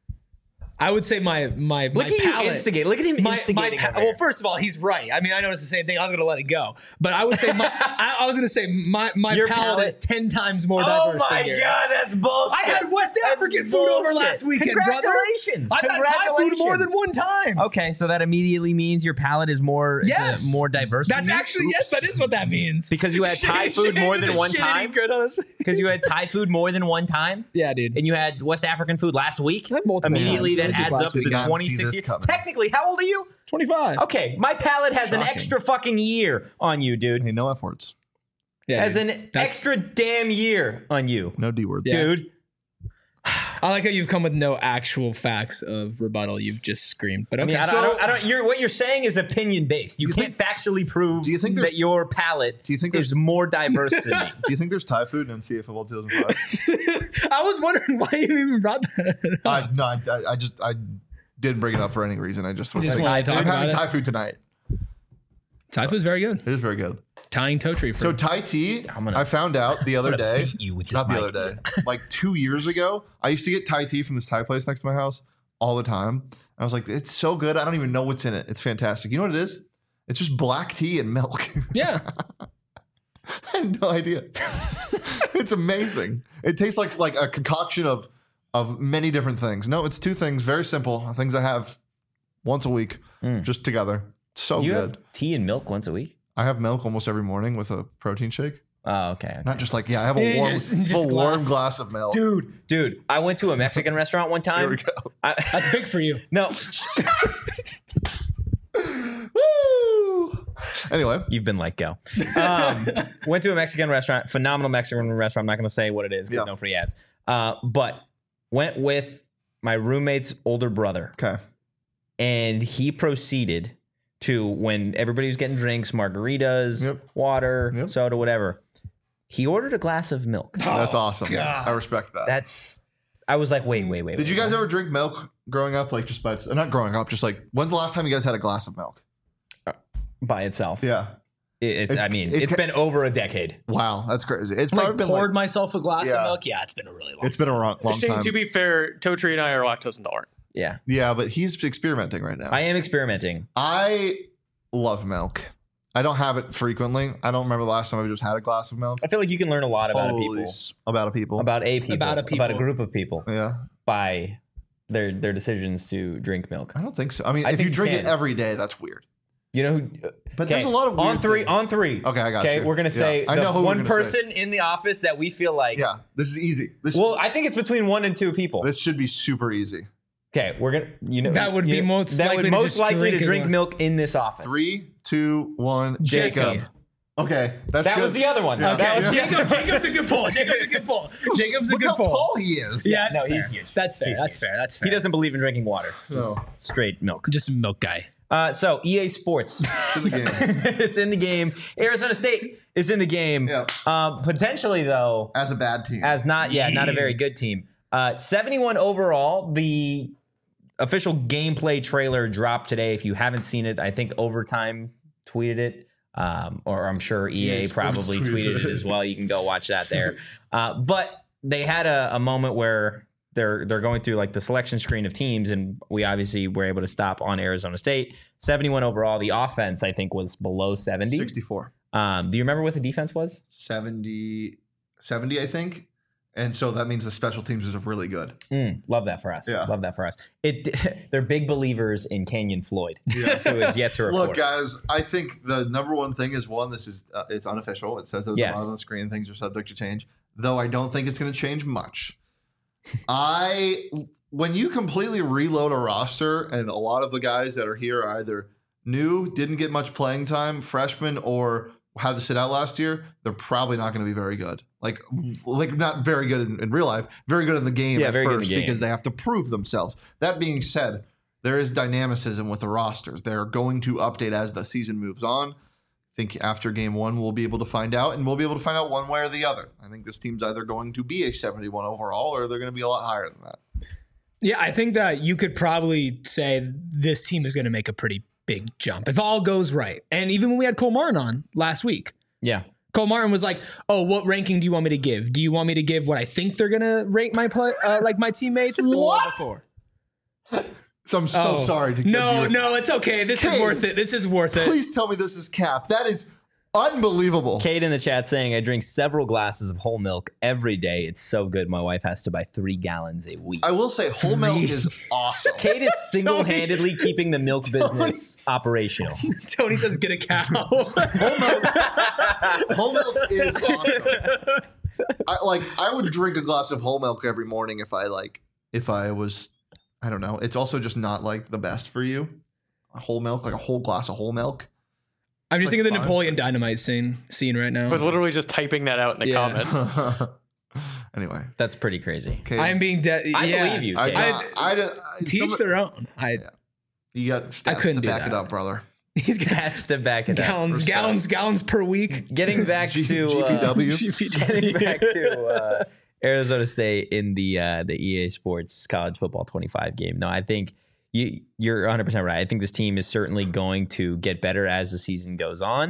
I would say my Look at palate, you instigate. Look at him instigating. over well, here. first of all, he's right. I mean, I noticed the same thing. I was going to let it go, but I would say I was going to say my Your palate palate- is 10 times more Oh diverse my than yours. god, that's bullshit. I had West African food over last weekend, brother. Congratulations. I've had Thai food more than one time. Okay, so that immediately means your palate is more Yes. more diverse. That's than you? actually, yes, that is what that means. Because you had Thai food more than one time. Because you had Thai food more than one time. Yeah, dude. And you had West African food last week. had multiple Immediately, times. that It was just adds last up to week. Did not see 26 this years. coming. Technically, how old are you? 25. Okay, my palate has an Shocking. extra fucking year on you, dude. Hey, no F words. Yeah, Has dude. an extra damn year on you, No D words. Yeah. dude. I like how you've come with no actual facts of rebuttal. You've just screamed. But I okay. mean, I don't. What you're saying is opinion based. You can't factually prove do you think that your palate there's- is more diverse than me. Do you think there's Thai food in NCAA football 2005? I was wondering why you even brought that up. I didn't bring it up for any reason. I just was You just thinking, wanted to talk I'm having about it? Thai food tonight. Thai food's very good. It is very good. Tying toe tree. So Thai tea, gonna- I found out the other day. beat you with this Not the mic. other day. Like 2 years ago, I used to get Thai tea from this Thai place next to my house all the time. I was like, it's so good. I don't even know what's in it. It's fantastic. You know what it is? It's just black tea and milk. Yeah. I had no idea. It's amazing. It tastes like a concoction of many different things. No, it's two things. Very simple. Things I have once a week, just together. So Do you good. have tea and milk once a week? I have milk almost every morning with a protein shake. Oh, okay. Not just like, I have a Yeah, warm, just a warm glass. glass of milk. Dude, I went to a Mexican restaurant one Here we time. go. That's big for you. No, Woo! Anyway, you've been let go. Went to a Mexican restaurant, phenomenal Mexican restaurant. I'm not going to say what it is because Yeah. no free ads. But went with my roommate's older brother, okay. and he proceeded to, when everybody was getting drinks, margaritas, Yep. water, Yep. soda, whatever. He ordered a glass of milk. That's awesome. God. I respect that. I was like, wait. Did you guys ever drink milk growing up? Like just by, not growing up, just like, when's the last time you guys had a glass of milk? by itself? Yeah. It's been over a decade. Wow. That's crazy. It's probably Like been poured myself a glass Yeah. of milk. Yeah, it's been a really long. it's been a long Shane, time. to be fair, Totri and I are lactose intolerant. Yeah, Yeah, but he's experimenting right now. I am experimenting. I love milk. I don't have it frequently. I don't remember the last time I just had a glass of milk. I feel like you can learn a lot about Holy a people, about a people. about a people. group of people Yeah. by their decisions to drink milk. I don't think so. I mean, I if think you you drink it can. every day, that's weird. You know who? But there's a lot of weird on three. things. On three. Okay, I got Okay, you. we're gonna say I the know who we're one gonna say. person in the office that we feel like. Yeah, this is easy. Well, I think it's between 1 and 2 people. This should be super easy. Okay, we're gonna. That would be most that likely would to most just likely to drink drink it. milk in this office. 3, 2, 1. Jesse. Jacob. Okay, that's That good. was the other one. Yeah. That was Yeah. the other one. Jacob's a good pull. Jacob's a good pull. Jacob's a Look good how pull. tall he is. Yeah, No, that's he's fair. huge. That's fair. He's That's huge. fair. That's fair. He doesn't believe in drinking water. No. Just straight milk. Just a milk guy. So EA Sports. It's in the game. It's in the game. Arizona State is in the game. Yeah. Potentially though, As a bad team. as not a very good team. 71 overall. The official gameplay trailer dropped today. If you haven't seen it, I think Overtime tweeted it. Or I'm sure EA Sports probably tweeted it as well. You can go watch that there. But they had a moment where they're going through like the selection screen of teams, and we obviously were able to stop on Arizona State. 71 overall. The offense, I think, was below 70. 64. Do you remember what the defense was? 70, I think. And so that means the special teams is really good. Love that for us. Yeah. Love that for us. They're big believers in Kenyon Floyd, Yeah. who is yet to report. Look, guys, I think the number one thing is this is it's unofficial. It says it at Yes. the bottom of the screen. Things are subject to change, though I don't think it's going to change much. When you completely reload a roster and a lot of the guys that are here are either new, didn't get much playing time, freshmen, or had to sit out last year, they're probably not going to be very good. Like not very good in real life, very good in the game Yeah, at very good in first the game. because they have to prove themselves. That being said, there is dynamicism with the rosters. They're going to update as the season moves on. think after game 1 we'll be able to find out, and we'll be able to find out one way or the other. I think this team's either going to be a 71 overall or they're going to be a lot higher than that. Yeah, I think that you could probably say this team is going to make a pretty big jump if all goes right. And even when we had Cole Martin on last week, Yeah. Cole Martin was like, "Oh, what ranking do you want me to give? Do you want me to give what I think they're going to rate my like my teammates?" What? So I'm so sorry to give you No, it's okay. This is Cade, worth it. This is worth it. Please tell me this is cap. That is unbelievable. Kate in the chat saying, I drink several glasses of whole milk every day. It's so good. My wife has to buy 3 gallons a week. I will say whole milk is awesome. Kate is single-handedly keeping the milk business operational. Tony says, "Get a cow." Whole milk is awesome. I would drink a glass of whole milk every morning if I was, I don't know. It's also just not like the best for you. Whole milk, like a whole glass of whole milk. I'm just like thinking of the fun. Napoleon Dynamite scene right now. I was literally just typing that out in the comments. Anyway, That's pretty crazy. okay. I'm being dead. I believe you, Kate. Teach their own. You got stats couldn't to do back that. it up, brother. He's got That's to back it up. gallons per week. Getting back to GPW. getting back to Arizona State in the EA Sports College Football 25 game. No, I think you're 100% right. I think this team is certainly going to get better as the season goes on.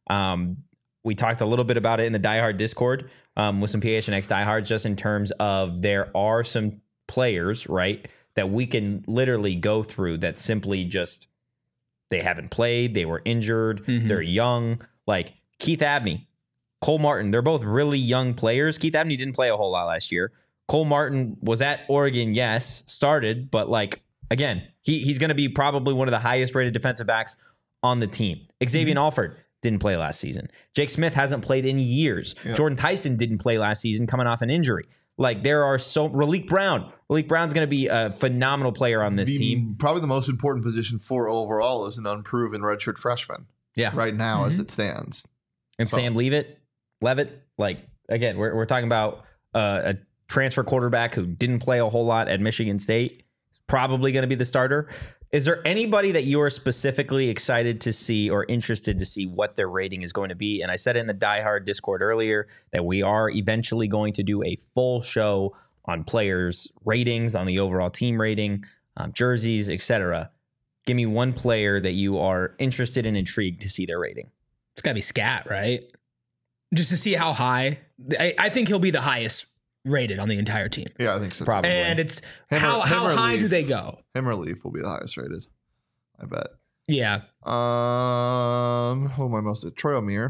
We talked a little bit about it in the Die Hard Discord with some PHNX diehards, just in terms of there are some players, right, that we can literally go through that simply just they haven't played, they were injured, they're young, like Keith Abney, Cole Martin. They're both really young players. Keith Abney didn't play a whole lot last year. Cole Martin was at Oregon, yes, started, but like, again, he's going to be probably one of the highest rated defensive backs on the team. Xavier Alford didn't play last season. Jake Smith hasn't played in years. Yeah. Jordan Tyson didn't play last season coming off an injury. Like, there are Raleek Brown's going to be a phenomenal player on this team. Probably the most important position for overall is an unproven redshirt freshman. Yeah. Right now, as it stands. And So- Sam Leavitt, like, again, we're talking about a transfer quarterback who didn't play a whole lot at Michigan State. He's probably going to be the starter. Is there anybody that you are specifically excited to see or interested to see what their rating is going to be? And I said in the Die Hard Discord earlier that we are eventually going to do a full show on players' ratings, on the overall team rating, jerseys, etc. Give me one player that you are interested and intrigued to see their rating. It's got to be Scat, right? Just to see how high. I think he'll be the highest rated on the entire team. Yeah, I think so. Probably. And it's Him how or high Leaf. do they go? Him or Leaf will be the highest rated. I bet. Yeah. Who am I most? Troy O'Meara.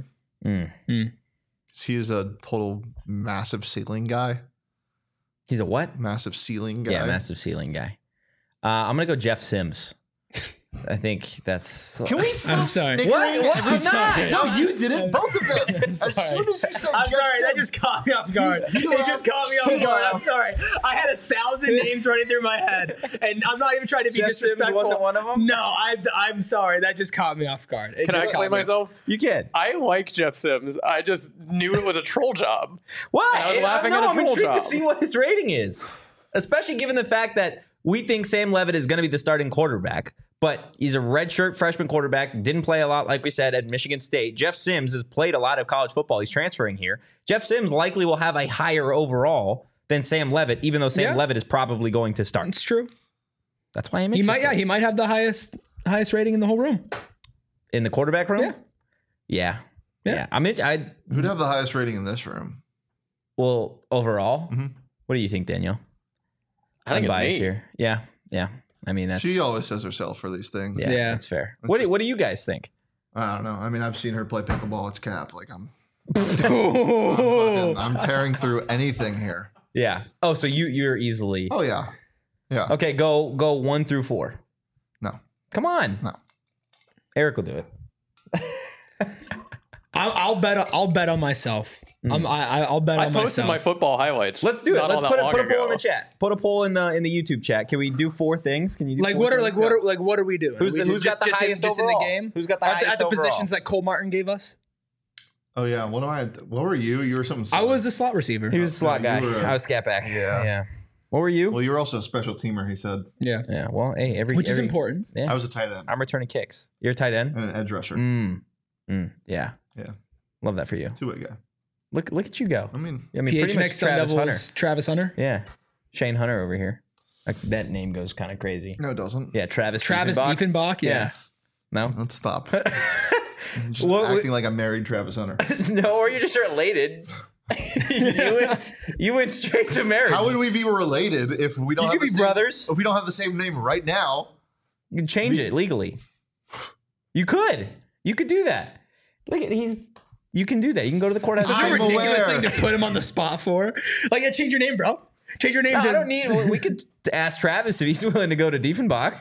He's a total massive ceiling guy. He's a what? Massive ceiling guy. Yeah, massive ceiling guy. I'm going to go Jeff Sims. I think that's... Can we stop I'm sorry. snickering? What? I'm not. No, you did it. Both of them. As soon as you said I'm Jeff sorry, that Sims, just caught me off guard. It You just caught me off guard. I'm laughed. sorry. I had 1,000 names running through my head, and I'm not even trying to be Jeff Sims disrespectful. wasn't one of them? No, I'm sorry. That just caught me off guard. Can I explain myself? You can. I like Jeff Sims. I just knew it was a troll job. What? I was laughing no, at a I'm troll intrigued job. to see what his rating is, especially given the fact that we think Sam Leavitt is going to be the starting quarterback, but he's a redshirt freshman quarterback, didn't play a lot, like we said, at Michigan State. Jeff Sims has played a lot of college football. He's transferring here. Jeff Sims likely will have a higher overall than Sam Leavitt, even though Sam Leavitt is probably going to start. It's true. That's why I'm He interested. might have the highest rating in the whole room. In the quarterback room? Yeah. Yeah. who'd have the highest rating in this room? Well, overall, Mhm. what do you think, Daniel? I think I'm it's biased me. here. Yeah. I mean, that's She always says herself for these things. Yeah. that's fair. It's What just- do you guys think? I don't know. I mean, I've seen her play pickleball. It's cap. Like I'm Oh. I'm tearing through anything here. Yeah. Oh, so you're easily Oh yeah, yeah. okay. Go 1 through 4. No, Come on. no. Eric will do it. I'll bet on myself. I'll bet I on posted myself. my football highlights. Let's do it. not Let's all put that a long poll in ago. the chat. Put a poll in the YouTube chat. Can we do 4 things? Can you do Like 4 what are things? what are we doing? Who's Are we got the just highest in overall? the game? Who's got the at highest the overall? positions that Cole Martin gave us? Oh yeah. What were you? You were something. I silly. was the slot receiver. He was a slot No, guy. you were, I was scat back. Yeah. Yeah. What were you? Well, you were also a special teamer. He said. Yeah, Yeah. Well, hey, which is important. Yeah. I was a tight end I'm returning kicks. You're a tight end. and an edge rusher. Mm. Yeah. Yeah. Love that for you. Two-way guy. Look at you go. I mean, pretty much PHNX Sun Devils, Travis Hunter. Yeah. Shane Hunter over here. Like, that name goes kind of crazy. no, it doesn't. Yeah, Travis Diefenbach. Yeah. No? Let's stop. I'm just What- acting like I married Travis Hunter. No, or you're just related. you went straight to marriage. How would we be related if we don't You have could the be same, brothers. If we don't have the same name right now? You can change it legally. You could do that. Look at you can do that. You can go to the courthouse. Such a I'm ridiculous aware. thing to put him on the spot for. Like, yeah, change your name, bro. Change your name. No, to, I don't need. We could ask Travis if he's willing to go to Diefenbach.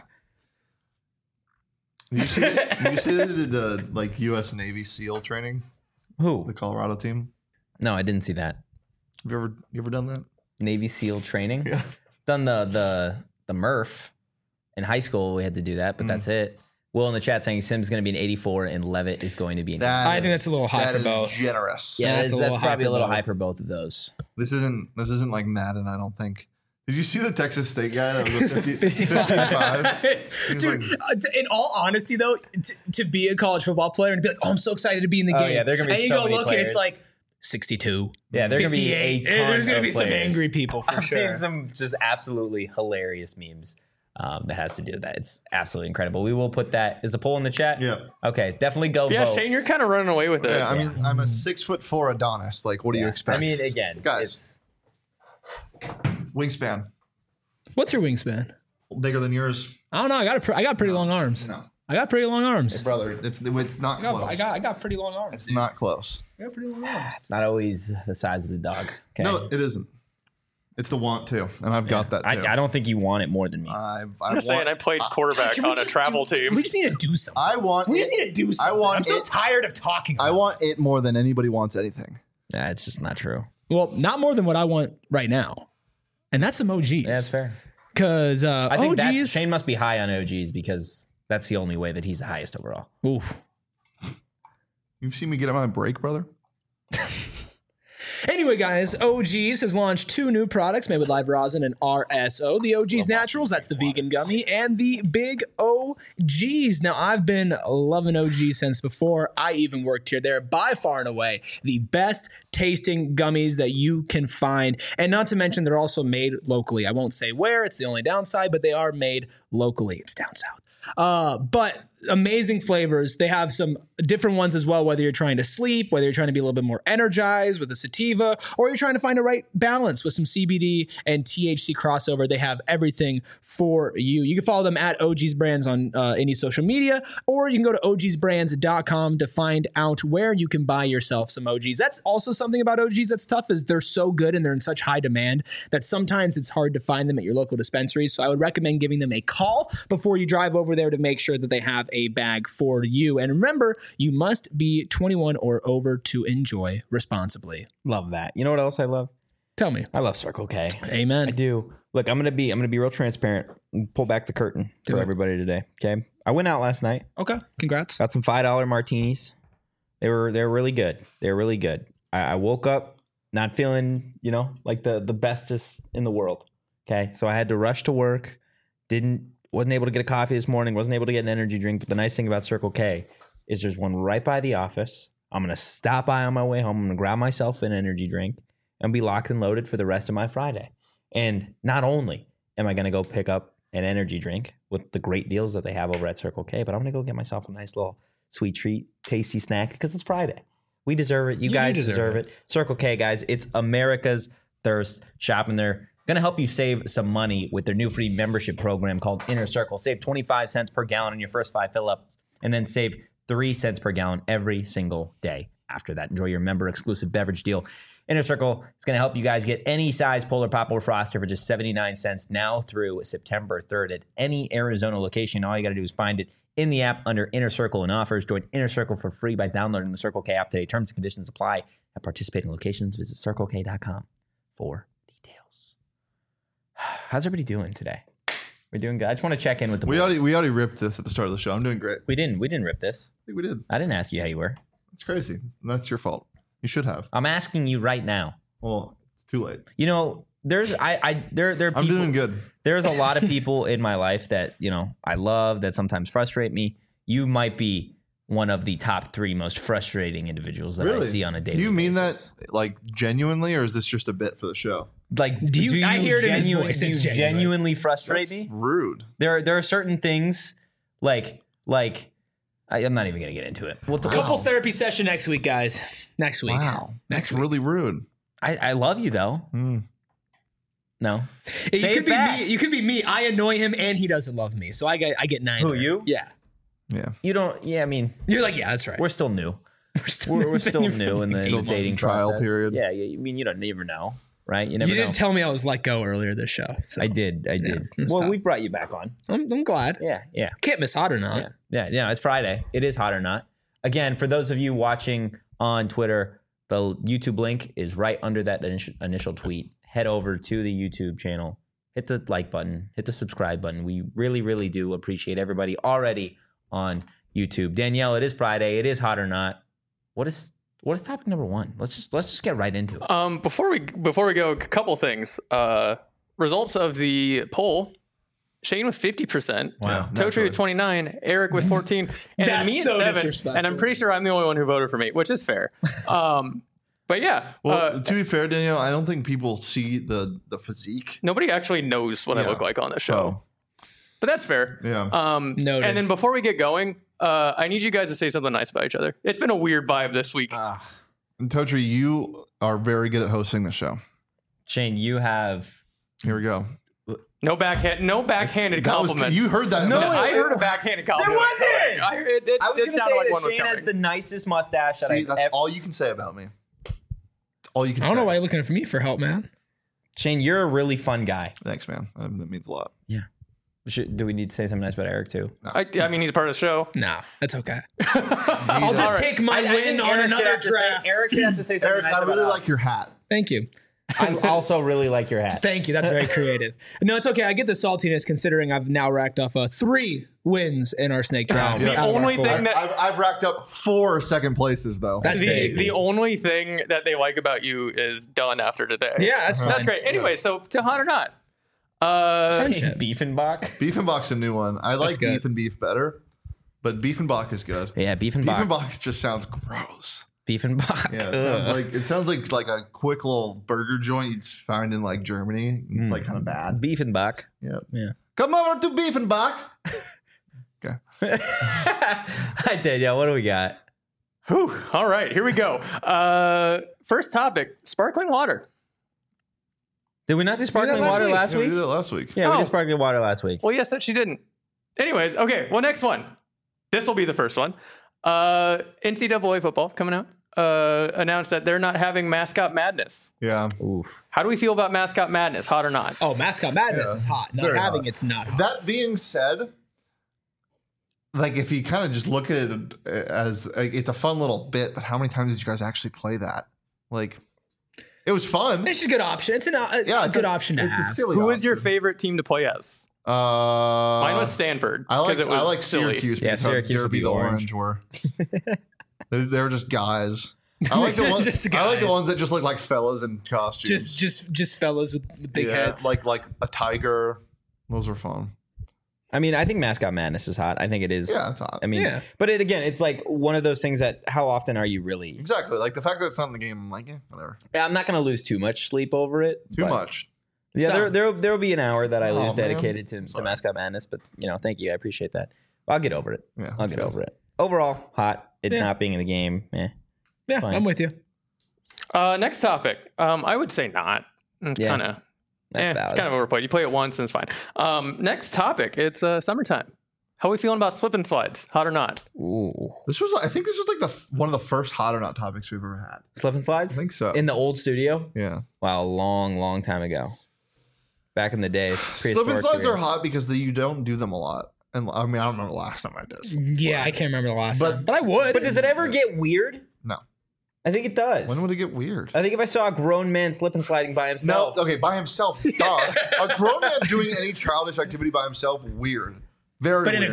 You see the like U.S. Navy SEAL training, Who? the Colorado team? No, I didn't see that. Have you ever done that? Navy SEAL training. Yeah. Done the MRF in high school. We had to do that, but that's it. Will in the chat saying Sim's going to be an 84 and Levitt is going to be an 80. I think that's a little high that for is both. generous. Yeah, that's that's, a little high probably for a little both. high for both of those. This isn't like Madden, I don't think. Did you see the Texas State guy that was a 55. 55? He's Dude, in all honesty, though, to be a college football player and be like, oh, I'm so excited to be in the Oh, game. yeah, there are gonna be and you so go many look and it's players. like 62. Yeah, there are going to be a 58. ton There's gonna of be some players. angry people for I've sure. seen some just absolutely hilarious memes that has to do with that. It's absolutely incredible. We will put that. Is the poll in the chat? Yeah. Okay, definitely go Yeah, vote. Shane, you're kind of running away with it. Yeah, I mean, I'm a 6'4" Adonis. Like, what do you expect? I mean, again, Guys. Wingspan. What's your wingspan? Bigger than yours? I don't know. I got pretty long arms. No. I got pretty long arms. Brother, it's not close. I got pretty long arms. It's not close. I got pretty long arms. it's not always the size of the dog. Okay. No, it isn't. It's the want to, and I've got that too. I don't think you want it more than me. I'm just saying, I played quarterback Can we on a just travel team. We just need to do something. I want. We just need to do something. want I'm so it- tired of talking. I about want it more than anybody wants anything. Nah, it's just not true. it. Well, not more than what I want right now, and that's some OGs. Yeah, that's fair. Because I think OGs. Shane must be high on OGs because that's the only way that he's the highest overall. Oof. You've seen me get on my break, brother. Anyway, guys, OGs has launched 2 new products made with live rosin and RSO. The OGs Naturals, that's the vegan gummy, and the Big OGs. Now, I've been loving OGs since before I even worked here. They're by far and away the best tasting gummies that you can find. And not to mention, they're also made locally. I won't say where, it's the only downside, but they are made locally. It's down south. But amazing flavors. They have some different ones as well, whether you're trying to sleep, whether you're trying to be a little bit more energized with a sativa, or you're trying to find a right balance with some CBD and THC crossover. They have everything for you. You can follow them at OG's Brands on any social media, or you can go to ogsbrands.com to find out where you can buy yourself some OGs. That's also something about OGs that's tough is they're so good and they're in such high demand that sometimes it's hard to find them at your local dispensaries. So I would recommend giving them a call before you drive over there to make sure that they have a bag for you. And remember, you must be 21 or over to enjoy responsibly. Love that. You know what else I love? Tell me. I love Circle K. Amen. I do. Look, I'm gonna be real transparent. Pull back the curtain for it. everybody today. Okay. I went out last night. Okay. Congrats. Got some $5 martinis. They were really good. They were really good. I woke up not feeling, like the bestest in the world. Okay. So I had to rush to work. Wasn't able to get a coffee this morning. Wasn't able to get an energy drink. But the nice thing about Circle K is there's one right by the office. I'm gonna stop by on my way home. I'm gonna grab myself an energy drink and be locked and loaded for the rest of my Friday. And not only am I gonna go pick up an energy drink with the great deals that they have over at Circle K, but I'm gonna go get myself a nice little sweet treat, tasty snack because it's Friday. We deserve it. You guys deserve it. Circle K, guys, it's America's thirst. Shopping there. Going to help you save some money with their new free membership program called Inner Circle. Save 25 cents per gallon on your first 5 fill-ups, and then save 3 cents per gallon every single day after that. Enjoy your member-exclusive beverage deal. Inner Circle is going to help you guys get any size Polar Pop or Froster for just 79 cents now through September 3rd at any Arizona location. All you got to do is find it in the app under Inner Circle and offers. Join Inner Circle for free by downloading the Circle K app today. Terms and conditions apply at participating locations. Visit CircleK.com for details. How's everybody doing today? We're doing good. I just want to check in with the boys. We already ripped this at the start of the show. I'm doing great. We didn't rip this. I think we did. I didn't ask you how you were. It's crazy. And that's your fault. You should have. I'm asking you right now. Well, it's too late. There are people, I'm doing good. There's a lot of people in my life that, I love that sometimes frustrate me. You might be one of the top 3 most frustrating individuals that I see on a daily basis. Do you mean that like genuinely, or is this just a bit for the show? Like, do you I hear it in his voice. Do you It's genuine. genuinely frustrate me? Rude. There are certain things like I'm not even gonna get into it. We'll Couples therapy session next week, guys. Next week. Wow. Next That's week. really rude. I love you though. No. You Say could it be back. me. You could be me. I annoy him and he doesn't love me. So I get 9. Who, you? Yeah. Yeah. You don't. Yeah, I mean, You're like, yeah, that's right. we're still new. We're still, We're still new in the Still dating trial process. period. Yeah, I mean, you don't never know, right? You never You know. didn't tell me I was let go earlier this show. So I did. it's Well, tough. we brought you back on. I'm glad. Yeah. Can't miss Hot or Not. Yeah. It's Friday. It is hot or not. Again, for those of you watching on Twitter, the YouTube link is right under that initial tweet. Head over to the YouTube channel. Hit the like button. Hit the subscribe button. We really, really do appreciate everybody already on YouTube. Danielle, it is Friday. It is hot or not. What is topic number 1? Let's just get right into it. Before we go, a couple things. Results of the poll: Shane with 50%, Wow. Totri with 29, Eric with 14, and then That's me at so 7. disrespectful. And I'm pretty sure I'm the only one who voted for me, which is fair. But yeah, Well, to be fair, Danielle, I don't think people see the physique. nobody actually knows what I Yeah. look like on the show, but that's fair. Yeah. Noted. And then before we get going, I need you guys to say something nice about each other. It's been a weird vibe this week. And Totri, you are very good at hosting the show. Shane, you have Here we go. No backhanded That was, compliments. you heard that. No, man. I heard a backhanded compliment. wasn't! I was going to say sounded like that one was Shane has coming. the nicest mustache that See, I've that's ever. all you can say about me. All you can I say. don't know why you're looking for me for help, man. Shane, you're a really fun guy. Thanks, man. That means a lot. Do we need to say something nice about Eric too? I mean, he's part of the show. Nah, that's okay. I'll I'll just take my win on another draft. Eric should have to say something Eric, nice I really about like us. your hat. Thank you. I also really like your hat. Thank you. That's very creative. No, it's okay. I get the saltiness considering I've now racked off 3 wins in our snake draft. The out of our only 4. thing that- I've racked up 4 second places though. That's crazy. The only thing that they like about you is done after today. Yeah, that's fine. That's great. Anyway, so to hot or not. Friendship. Beefenbach. Beefenbach's a new one. I like good. beef and beef better, but Beefenbach is good. Yeah, Beefenbach. Beefenbach just sounds gross. Beefenbach. Yeah, it sounds like a quick little burger joint you'd find in like Germany. It's like kind of bad. Beefenbach. Yeah. Yeah. Come over to Beefenbach. Okay. Hi, Danielle. What do we got? Whew. All right, here we go. First topic: sparkling water. Did we not do sparkling last water week. last Yeah, we week? did that last week. Yeah, we Oh. did sparkling water last week. Well, yes, that she didn't. Anyways, okay. Well, next one. This will be the first one. NCAA football coming out. Announced that they're not having Mascot Madness. Yeah. Oof. How do we feel about Mascot Madness? Hot or not? Oh, Mascot Madness Yeah, is hot. Not very having hot. it's not hot. That being said, like if you kind of just look at it as it's a fun little bit, but how many times did you guys actually play that? Like, it was fun. It's just a good option. It's a good option to it's have. a silly. Who is your option. favorite? favorite team to play as? Mine Mine was Stanford. I like 'cause it was I like silly. Syracuse Yeah, because Syracuse how with derpy the the orange. orange were. they were just guys. I like the ones. Just I like the guys. ones that just look like fellas in costumes. Just fellas with big heads. like a tiger. Those are fun. I mean, I think Mascot Madness is hot. I think it is. Yeah, it's hot. I mean, Yeah. but it's like one of those things that how often are you really? Exactly. Like the fact that it's not in the game, I'm like, whatever. I'm not going to lose too much sleep over it. Too but- much. Yeah, So- there will be an hour that I Oh, lose man. dedicated to Sorry. Mascot Madness, but thank you, I appreciate that. I'll get over it. Yeah, I'll get too. over it. Overall, hot. It Yeah. not being in the game. yeah, fine. I'm with you. Next topic. I would say not. It's Yeah, kind of. That's valid. It's kind of overplayed. You play it once and it's fine. Next topic. It's summertime. How are we feeling about slip and slides? Hot or not? Ooh, I think this was like one of the first hot or not topics we've ever had. slip and I slides think so. in the old studio. Yeah. Wow, long time ago. Back in the day, Slip and prehistoric slides are period. hot because you don't do them a lot. And I mean, I don't remember the last time I did. Yeah, I can't remember the last But- time, but I would. But does it ever get weird? No. I think it does. When would it get weird? I think if I saw a grown man slip and sliding by No, himself, okay, by himself. Duh. A grown man doing any childish activity by himself, weird. Very But in weird. a group?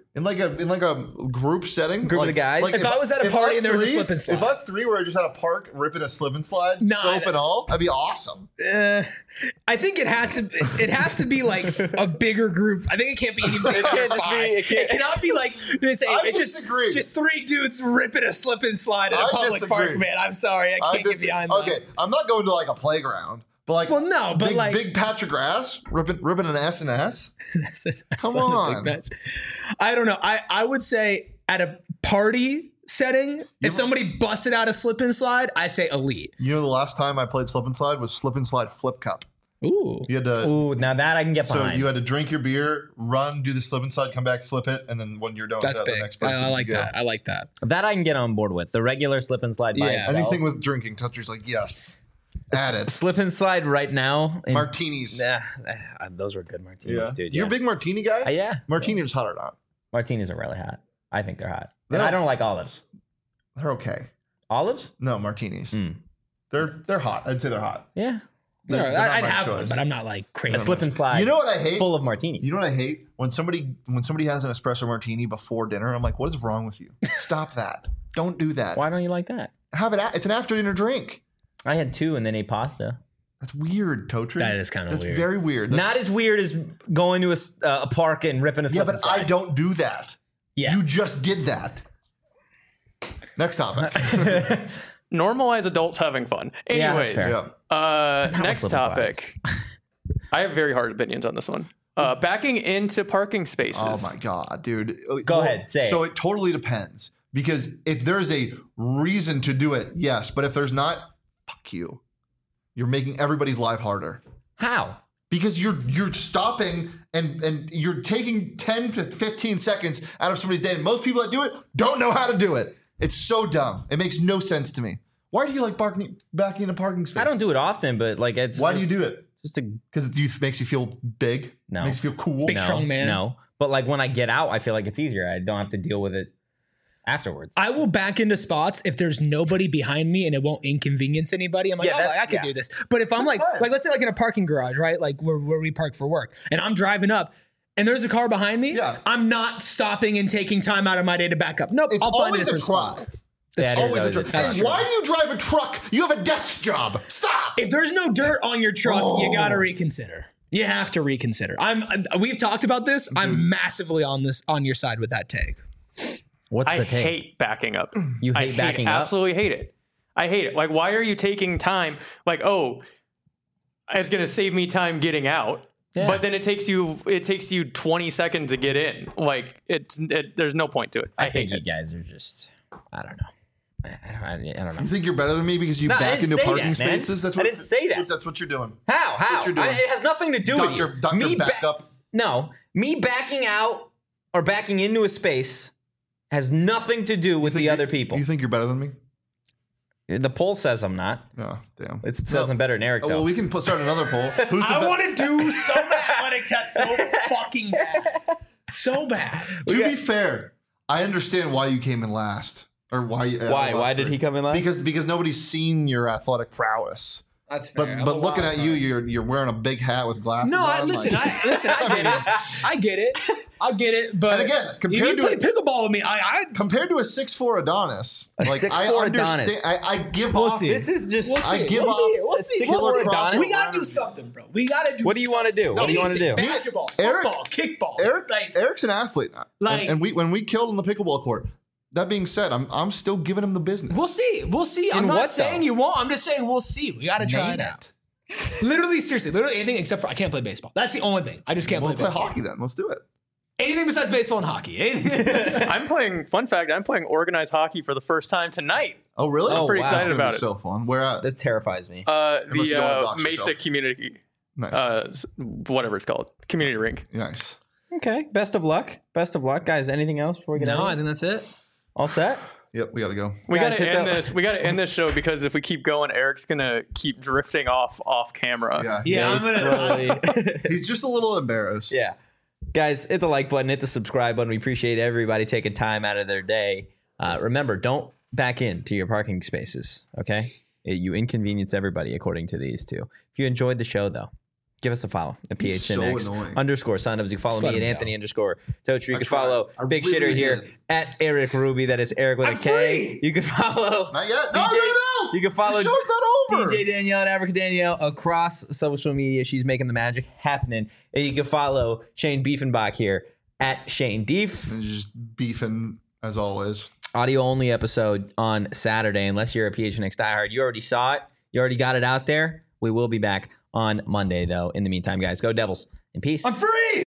in like a group setting, Group of the guys? Like If I was at a party and there was a slip and slide. If us three were just at a park ripping a slip and slide, Nah, soap and all, that'd be awesome. I think it has to be like a bigger group. I think it can't be any bigger. It cannot be like this. I disagree. Just three dudes ripping a slip and slide at a public park, man. I'm sorry, I can't get behind that. Okay, I'm not going to like a playground, but like Well, no, but like big patch of grass ripping an S&S. Come on. I don't know. I would say at a party setting, if somebody busted out a slip and slide, I say elite. You know, the last time I played slip and slide was slip and slide flip cup. Ooh. You had to. Ooh, now that I can get So behind. you had to drink your beer, run, do the slip and slide, come back, flip it, and then when you're done That's with that, big. the next person. I like can go. that. I like that. That I can get on board with. The regular slip and slide by Yeah. itself. Anything with drinking, Toucher's like, yes. Add it. Slip and slide right now. Martinis. Yeah, those were good martinis, dude. You're Yeah. a big martini guy? Yeah. Martini's hot or not? Martinis are really hot. I think they're hot. They And I don't- don't like olives. They're okay. Olives? No, martinis. Mm. They're hot. I'd say they're hot. Yeah. They're not I'd my have one, choice. but I'm not like crazy. A slip and slide. You know what I hate? Full of martinis. You know what I hate? When somebody has an espresso martini before dinner, I'm like, what is wrong with you? Stop that. Don't do that. Why don't you like that? Have it. It's an after dinner drink. I had 2 and then ate pasta. That's weird, Totri. That is kinda That's weird. very weird. That's, Not as weird as going to a park and ripping a yeah, slip but and slide. I don't do that. Yeah. You just did that. Next topic. Normalize adults having fun. Yeah, that's Anyways, fair. next slip and topic. I have very hard opinions on this one. Backing into parking spaces. Oh my god, dude. Go ahead, say it. So it totally depends. Because if there's a reason to do it, yes. But if there's not, fuck you. You're making everybody's life harder. How? Because you're stopping and you're taking 10 to 15 seconds out of somebody's day. And most people that do it don't know how to do it. It's so dumb. It makes no sense to me. Why do you like backing in a parking space? I don't do it often, but like it's. Why do you do it? Just to Because it makes you feel big? No. Makes you feel cool? Big, strong man. No, but like when I get out, I feel like it's easier. I don't have to deal with it afterwards. I will back into spots if there's nobody behind me and it won't inconvenience anybody. I'm like, Yeah, oh, that's- I could yeah. do this. But if I'm That's fine. like, let's say like in a parking garage, right? Like where we park for work, and I'm driving up and there's a car behind me, Yeah. I'm not stopping and taking time out of my day to back up. Nope, It's I'll find a always a different truck. spot. Yeah, it is Always a always truck. a truck. And why do you drive a truck? You have a desk job. Stop. If there's no dirt on your truck, you gotta reconsider. You have to reconsider. We've talked about this. I'm massively on your side with that take. What's I the take? hate backing up. You I hate backing up? Absolutely hate it. I hate it. Like, why are you taking time? Like, oh, it's gonna save me time getting out. Yeah. But then it takes you 20 seconds to get in. Like there's no point to it. I think hate you it. guys are just. I don't know. I don't know. You think you're better than me because you No, I back didn't into say parking that, man. spaces? That's I didn't say that. That's what you're doing. How? what you're doing. It has nothing to do with you. Doctor back up. No, me backing out or backing into a space has nothing to do with the other people. You think you're better than me? The poll says I'm not. Oh, damn. It says I'm better than Eric, Oh, though. well, we can start another poll. Who's the I be- want to do some athletic test so fucking bad. So bad. To be fair, I understand why you came in last. Or why? Why? Why did he come in last? Because nobody's seen your athletic prowess. That's But looking at you, you're wearing a big hat with glasses. No, on, listen, like- I get it. I get it. But And again, if compared you to play it- pickleball with me, I compared to a 6'4" Adonis, like 6'4" I understand. Adonis. I give We'll off. see. This is just. We'll see. I give We'll off see. We'll see. killer We'll see. Adonis. We gotta do something, bro. We gotta do. What do you want to do? What do you want to do? Anything. Basketball, Eric- football, kickball. Eric, Eric's an athlete now. Like- and when we killed on the pickleball court. That being said, I'm still giving him the business. We'll see. We'll see. I'm In not what, saying though? you won't. I'm just saying we'll see. We gotta try Name it out. Literally, seriously, literally anything except for I can't play baseball. That's the only thing. I just can't We'll play play baseball. hockey then. Let's do it. Anything besides baseball and hockey. Anything. I'm playing. Fun fact: I'm playing organized hockey for the first time tonight. Oh, really? Oh, Pretty wow. excited That's gonna about be it. so fun. Where at? That terrifies me. Unless you don't wanna dox Mesa yourself. Community, Nice. whatever it's called, community rink. Nice. Okay. Best of luck. Best of luck, guys. Anything else before we get out? No, I think that's it. All set? Yep, we gotta go. We Guys, gotta hit end that- this. We gotta end this show because if we keep going, Eric's gonna keep drifting off camera. Yeah. Yeah, I'm gonna. Slowly. He's just a little embarrassed. Yeah. Guys, hit the like button, hit the subscribe button. We appreciate everybody taking time out of their day. Remember, don't back into your parking spaces, okay? You inconvenience everybody according to these two. If you enjoyed the show, though, Give us a follow at PHNX so annoying. _. Sign up. You can follow Just me let at him Anthony _Tocher. You I can tried. follow I Big really Shitter here did. at Eric Ruby. That is Eric with a K. You can follow Not yet. No, DJ no. You can follow The show's not over. DJ Danielle and Africa Danielle across social media. She's making the magic happening. And you can follow Shane Diefenbach here at Shane Dief. And just beefing as always. Audio only episode on Saturday, unless you're a PHNX diehard. You already saw it. You already got it out there. We will be back on Monday, though. In the meantime, guys, go Devils. In peace. I'm free.